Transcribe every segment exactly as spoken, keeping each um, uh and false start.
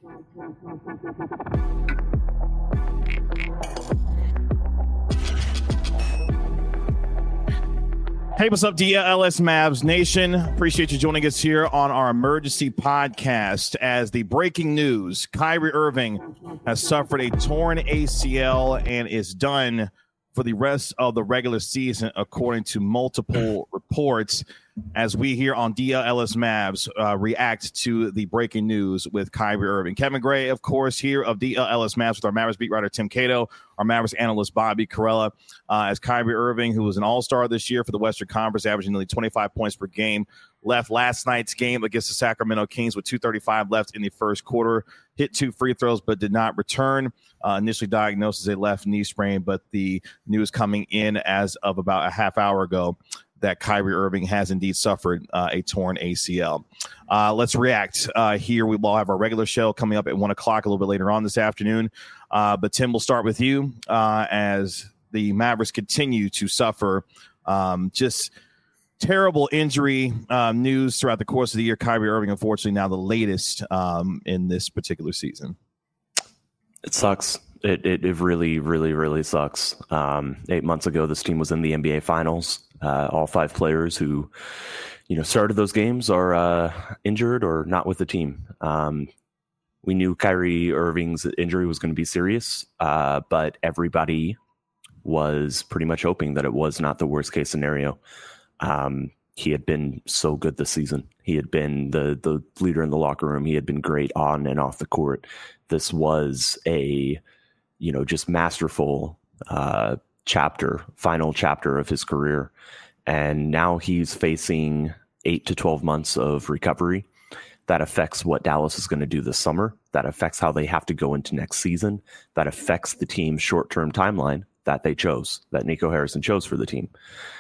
Hey, what's up, D L S Mavs Nation? Appreciate you joining us here on our emergency podcast. As the breaking news, Kyrie Irving has suffered a torn A C L and is done for the rest of the regular season, according to multiple reports. As we here on D L S Mavs uh, react to the breaking news with Kyrie Irving. Kevin Gray, of course, here of D L S Mavs with our Mavericks beat writer Tim Cato, our Mavericks analyst Bobby Carella, uh, as Kyrie Irving, who was an all-star this year for the Western Conference, averaging nearly twenty-five points per game, left last night's game against the Sacramento Kings with two thirty-five left in the first quarter, hit two free throws but did not return. Uh, initially diagnosed as a left knee sprain, but the news coming in as of about a half hour ago that Kyrie Irving has indeed suffered uh, a torn A C L. Uh, let's react uh, here. We will have our regular show coming up at one o'clock a little bit later on this afternoon. Uh, but Tim, we'll start with you uh, as the Mavericks continue to suffer um, just terrible injury um, news throughout the course of the year. Kyrie Irving, unfortunately, now the latest um, in this particular season. It sucks. It, it it really, really, really sucks. Um, eight months ago, this team was in the N B A Finals. Uh, all five players who, you know, started those games are uh, injured or not with the team. Um, we knew Kyrie Irving's injury was going to be serious, uh, but everybody was pretty much hoping that it was not the worst case scenario. Um, he had been so good this season. He had been the the leader in the locker room. He had been great on and off the court. This was a, you know, just masterful uh, chapter, final chapter of his career. And now he's facing eight to twelve months of recovery. That affects what Dallas is going to do this summer. That affects how they have to go into next season. That affects the team's short-term timeline that they chose, that Nico Harrison chose for the team.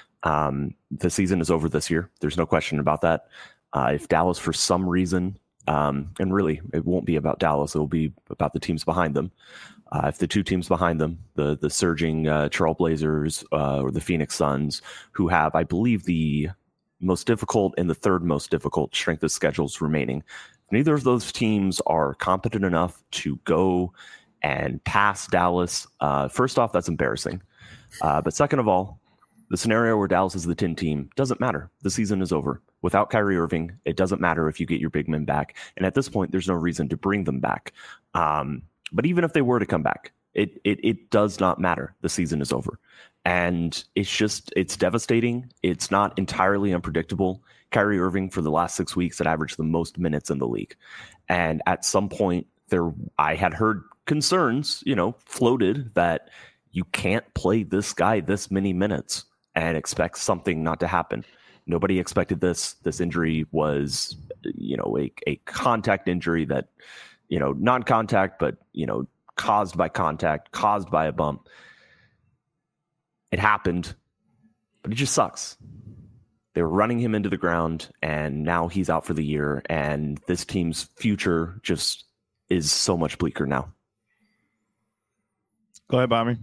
Um, the season is over this year. There's no question about that. Uh, if Dallas, for some reason, um, and really it won't be about Dallas, it will be about the teams behind them. Uh, if the two teams behind them, the the surging uh, Trailblazers uh, or the Phoenix Suns, who have, I believe, the most difficult and the third most difficult strength of schedules remaining, if neither of those teams are competent enough to go and pass Dallas, uh, first off, that's embarrassing. Uh, but second of all, the scenario where Dallas is the ten team doesn't matter. The season is over. Without Kyrie Irving, it doesn't matter if you get your big men back. And at this point, there's no reason to bring them back. Um, But even if they were to come back, it, it it does not matter. The season is over. And it's just, it's devastating. It's not entirely unpredictable. Kyrie Irving, for the last six weeks, had averaged the most minutes in the league. And at some point, there, I had heard concerns, you know, floated that you can't play this guy this many minutes and expect something not to happen. Nobody expected this. This injury was, you know, a, a contact injury that, you know, non-contact, but, you know, caused by contact, caused by a bump. It happened, but it just sucks. They were running him into the ground, and now he's out for the year, and this team's future just is so much bleaker now. Go ahead, Bobby.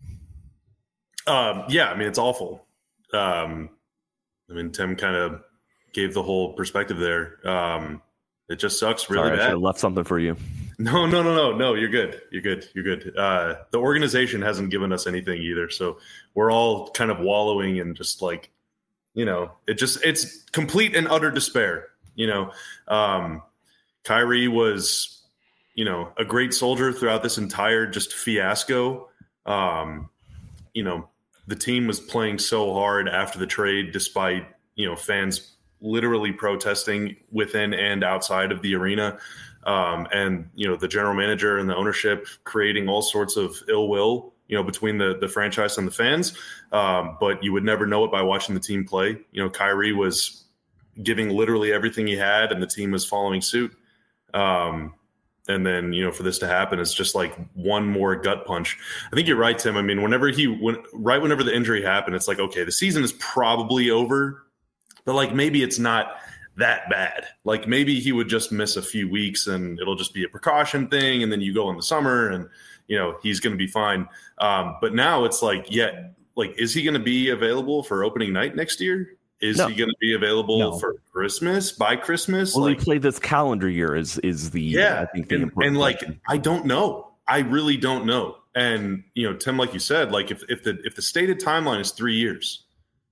Um, yeah, I mean, it's awful. Um, I mean, Tim kind of gave the whole perspective there. Um, It just sucks really Sorry, bad. I should have left something for you. No, no, no, no, no. You're good. You're good. You're good. Uh, the organization hasn't given us anything either, so we're all kind of wallowing in just like, you know, it just it's complete and utter despair. You know, um, Kyrie was, you know, a great soldier throughout this entire just fiasco. Um, you know, the team was playing so hard after the trade, despite, you know, fans literally protesting within and outside of the arena. Um, and, you know, the general manager and the ownership creating all sorts of ill will, you know, between the, the franchise and the fans. Um, but you would never know it by watching the team play. You know, Kyrie was giving literally everything he had and the team was following suit. Um, and then, you know, for this to happen, it's just like one more gut punch. I think you're right, Tim. I mean, whenever he went right, whenever the injury happened, it's like, okay, the season is probably over. But, like, maybe it's not that bad. Like, maybe he would just miss a few weeks and it'll just be a precaution thing. And then you go in the summer and, you know, he's going to be fine. Um, but now it's like, yeah, like, is he going to be available for opening night next year? Is no. he going to be available no. for Christmas, by Christmas? Will like, he play this calendar year is is the yeah, I think the and, important and like question. I don't know. I really don't know. And you know, Tim, like you said, like if if the if the stated timeline is three years,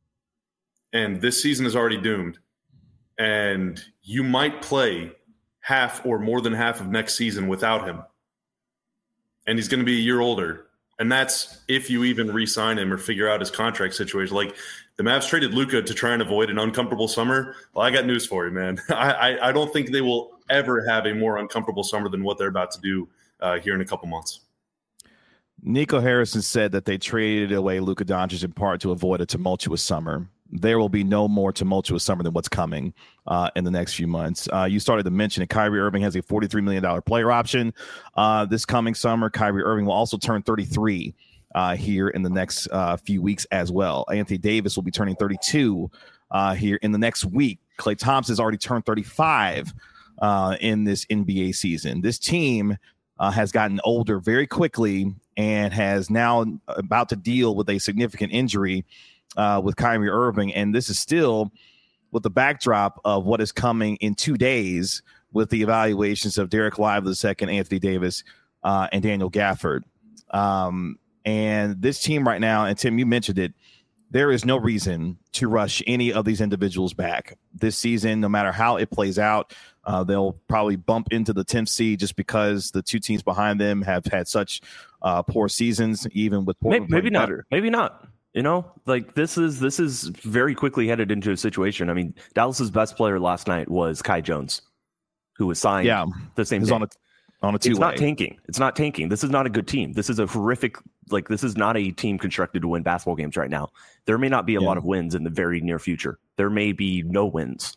and this season is already doomed, and you might play half or more than half of next season without him, and he's going to be a year older, and that's if you even re-sign him or figure out his contract situation. Like the Mavs traded Luka to try and avoid an uncomfortable summer. Well, I got news for you, man. I, I, I don't think they will ever have a more uncomfortable summer than what they're about to do uh, here in a couple months. Nico Harrison said that they traded away Luka Doncic in part to avoid a tumultuous summer. There will be no more tumultuous summer than what's coming uh, in the next few months. Uh, you started to mention that Kyrie Irving has a forty-three million dollars player option uh, this coming summer. Kyrie Irving will also turn thirty-three uh, here in the next uh, few weeks as well. Anthony Davis will be turning thirty-two uh, here in the next week. Klay Thompson has already turned thirty-five uh, in this N B A season. This team uh, has gotten older very quickly and has now about to deal with a significant injury Uh, with Kyrie Irving, and this is still with the backdrop of what is coming in two days with the evaluations of Derek Lively the second, Anthony Davis, uh, and Daniel Gafford. Um, and this team right now, and Tim, you mentioned it, there is no reason to rush any of these individuals back this season. No matter how it plays out, uh, they'll probably bump into the tenth seed just because the two teams behind them have had such uh, poor seasons, even with Portland maybe, maybe not. better. Maybe not. You know, like this is this is very quickly headed into a situation. I mean, Dallas's best player last night was Kai Jones, who was signed Yeah, the same day. on a on a two. It's not tanking. It's not tanking. This is not a good team. This is a horrific. Like this is not a team constructed to win basketball games right now. There may not be a yeah. lot of wins in the very near future. There may be no wins.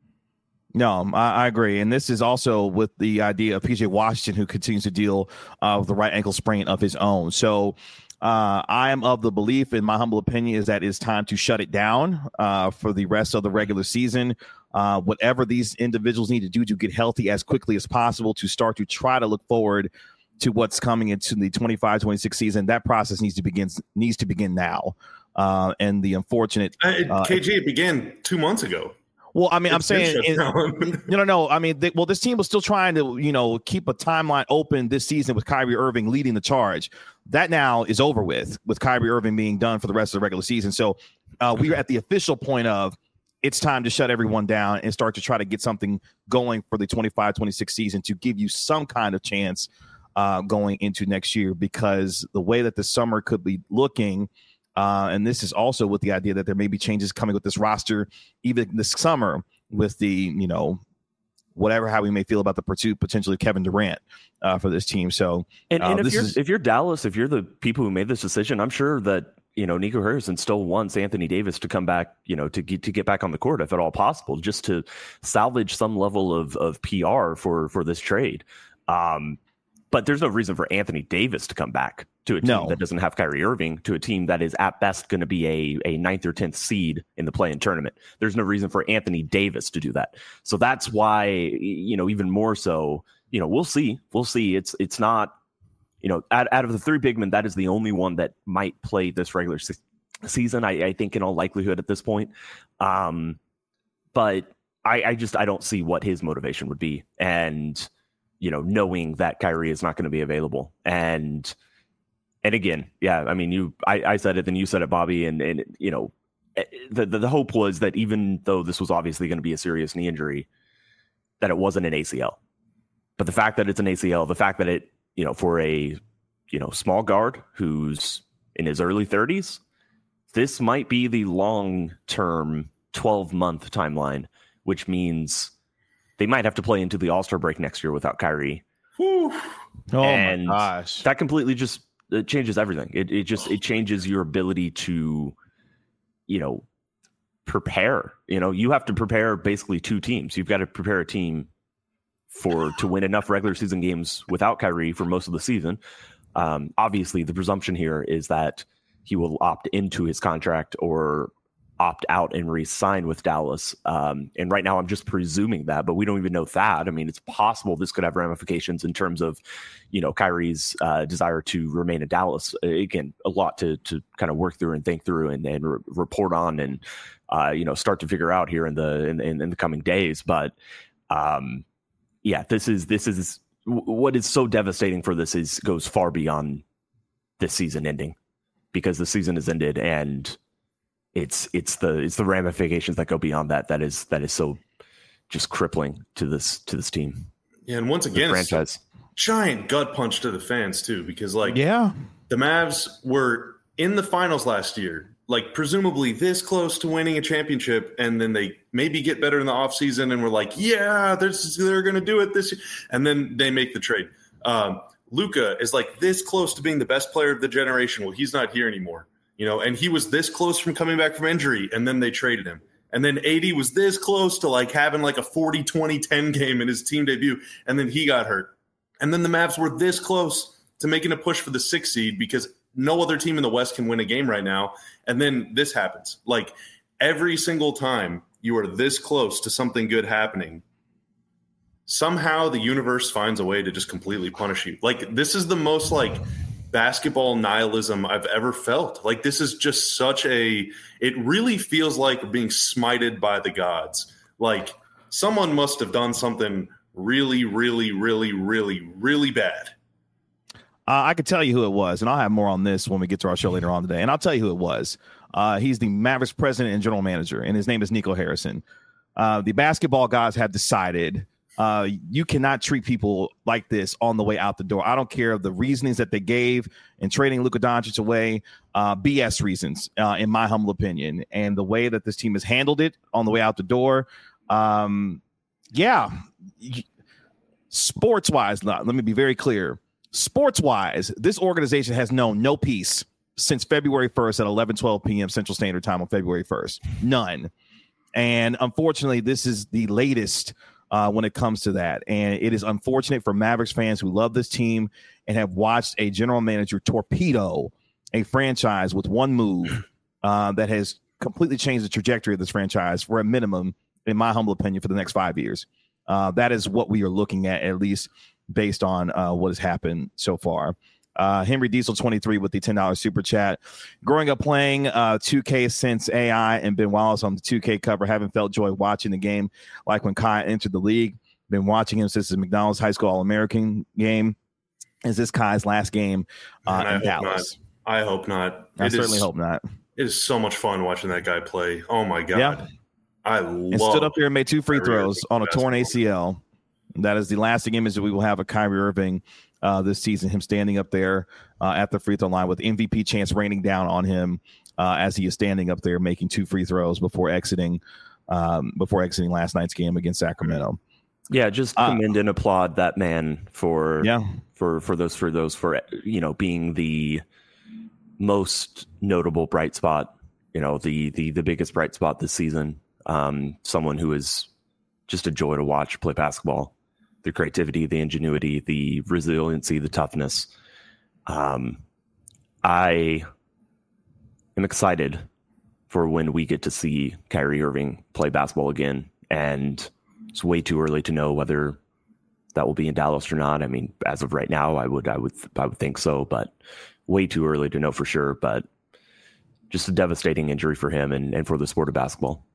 No, I, I agree. And this is also with the idea of P J Washington, who continues to deal uh, with the right ankle sprain of his own. So uh, I am of the belief, in my humble opinion, is that it's time to shut it down uh, for the rest of the regular season. Uh, whatever these individuals need to do to get healthy as quickly as possible to start to try to look forward to what's coming into the twenty-five twenty-six season. That process needs to begin needs to begin now. Uh, and the unfortunate uh, K G, it began two months ago. Well, I mean, it's I'm saying, in, no, no, no. I mean, they, well, this team was still trying to, you know, keep a timeline open this season with Kyrie Irving leading the charge. That now is over with, with Kyrie Irving being done for the rest of the regular season. So uh, we are at the official point of it's time to shut everyone down and start to try to get something going for the twenty-five twenty-six season to give you some kind of chance uh, going into next year, because the way that the summer could be looking. Uh, and this is also with the idea that there may be changes coming with this roster, even this summer, with the, you know, whatever, how we may feel about the pursuit potentially Kevin Durant uh, for this team. So, and, and uh, if this you're is, if you're Dallas, if you're the people who made this decision, I'm sure that, you know, Nico Harrison still wants Anthony Davis to come back, you know, to get to get back on the court if at all possible, just to salvage some level of of P R for for this trade. Um, but there's no reason for Anthony Davis to come back to a team no. that doesn't have Kyrie Irving, to a team that is at best going to be a, a ninth or tenth seed in the play-in tournament. There's no reason for Anthony Davis to do that. So that's why, you know, even more so, you know, we'll see. We'll see. It's it's not, you know, out, out of the three big men, that is the only one that might play this regular se- season, I, I think, in all likelihood at this point. Um, but I, I just, I don't see what his motivation would be. And, you know, knowing that Kyrie is not going to be available. And, and again, yeah, I mean, you, I, I said it, then you said it, Bobby. And, and you know, the, the, the hope was that even though this was obviously going to be a serious knee injury, that it wasn't an A C L. But the fact that it's an A C L, the fact that it, you know, for a, you know, small guard who's in his early thirties, this might be the long-term twelve month timeline, which means they might have to play into the All-Star break next year without Kyrie. Whew. Oh and my gosh. That completely just it changes everything. It it just it changes your ability to, you know, prepare. You know, you have to prepare basically two teams. You've got to prepare a team for to win enough regular season games without Kyrie for most of the season. Um, obviously, the presumption here is that he will opt into his contract or opt out and re-sign with Dallas. Um, and right now I'm just presuming that, but we don't even know that. I mean, it's possible this could have ramifications in terms of, you know, Kyrie's uh, desire to remain in Dallas. Again, a lot to to kind of work through and think through and, and re- report on and, uh, you know, start to figure out here in the in, in, in the coming days. But um, yeah, this is this is what is so devastating for this is goes far beyond this season ending, because the season has ended and It's it's the it's the ramifications that go beyond that that is that is so just crippling to this to this team. Yeah, and once again, the franchise, giant gut punch to the fans too, because like yeah, the Mavs were in the finals last year, like presumably this close to winning a championship, and then they maybe get better in the offseason and we're like, yeah, they're they're going to do it this year, and then they make the trade. Um, Luka is like this close to being the best player of the generation. Well, he's not here anymore. You know, and he was this close from coming back from injury, and then they traded him. And then A D was this close to like having like a forty twenty ten game in his team debut, and then he got hurt. And then the Mavs were this close to making a push for the sixth seed because no other team in the West can win a game right now. And then this happens. Like every single time you are this close to something good happening, somehow the universe finds a way to just completely punish you. Like this is the most like basketball nihilism I've ever felt. Like this is just such a, it really feels like being smited by the gods. Like someone must have done something really, really, really, really, really bad. Uh, I could tell you who it was, and I'll have more on this when we get to our show later on today. And I'll tell you who it was. Uh, he's the Mavericks president and general manager, and his name is Nico Harrison. Uh, the basketball gods have decided Uh, you cannot treat people like this on the way out the door. I don't care of the reasonings that they gave in trading Luka Doncic away, uh, B S reasons, uh, in my humble opinion, and the way that this team has handled it on the way out the door. Um, yeah, sports wise, let me be very clear. Sports wise, this organization has known no peace since February first at eleven twelve p.m. Central Standard Time on February first. None. And unfortunately, this is the latest Uh, when it comes to that. And it is unfortunate for Mavericks fans who love this team and have watched a general manager torpedo a franchise with one move uh, that has completely changed the trajectory of this franchise for a minimum, in my humble opinion, for the next five years. Uh, that is what we are looking at, at least based on uh, what has happened so far. Uh, Henry Diesel twenty-three with the ten dollars super chat. Growing up playing uh, two K since A I and Ben Wallace on the two K cover, haven't felt joy watching the game like when Kai entered the league. Been watching him since the McDonald's High School All-American game. Is this Kai's last game uh, in Dallas? Not. I hope not. I it certainly is, hope not. It is so much fun watching that guy play. Oh, my God. Yeah. I and love stood up there and made two free Kyrie throws Irving on a basketball. torn A C L. That is the lasting image that we will have of Kyrie Irving uh, this season, him standing up there uh, at the free throw line with M V P chance raining down on him uh, as he is standing up there making two free throws before exiting um, before exiting last night's game against Sacramento. Yeah, just commend uh, and applaud that man for yeah for for those for those for you know being the most notable bright spot, you know the the the biggest bright spot this season. Um, someone who is just a joy to watch play basketball. The creativity, the ingenuity, the resiliency, the toughness. Um, I am excited for when we get to see Kyrie Irving play basketball again, and it's way too early to know whether that will be in Dallas or not. I mean, as of right now, I would, I would, I would think so, but way too early to know for sure. But just a devastating injury for him and, and for the sport of basketball.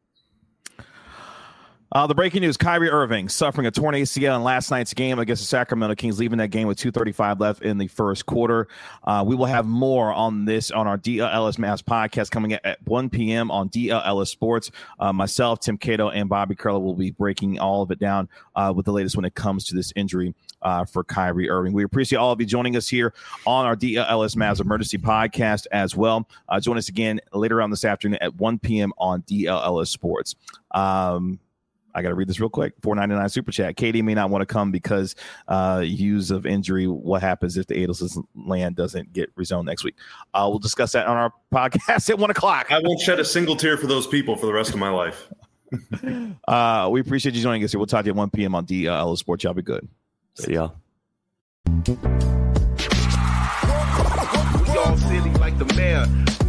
Uh, the breaking news, Kyrie Irving suffering a torn A C L in last night's game against the Sacramento Kings, leaving that game with two thirty-five left in the first quarter. Uh, we will have more on this on our D L L S Mavs podcast coming at one p.m. on D L L S Sports. Uh, myself, Tim Cato, and Bobby Curler will be breaking all of it down uh, with the latest when it comes to this injury uh, for Kyrie Irving. We appreciate all of you joining us here on our D L L S Mavs Emergency Podcast as well. Uh, join us again later on this afternoon at one p.m. on D L L S Sports. Um, I got to read this real quick. four ninety-nine super chat. Katie may not want to come because uh, use of injury. What happens if the Adelson's land doesn't get rezoned next week? Uh, we'll discuss that on our podcast at one o'clock. I won't shed a single tear for those people for the rest of my life. uh, we appreciate you joining us here. We'll talk to you at one p.m. on D L L Sports. Y'all be good. See y'all. We all silly like the mayor.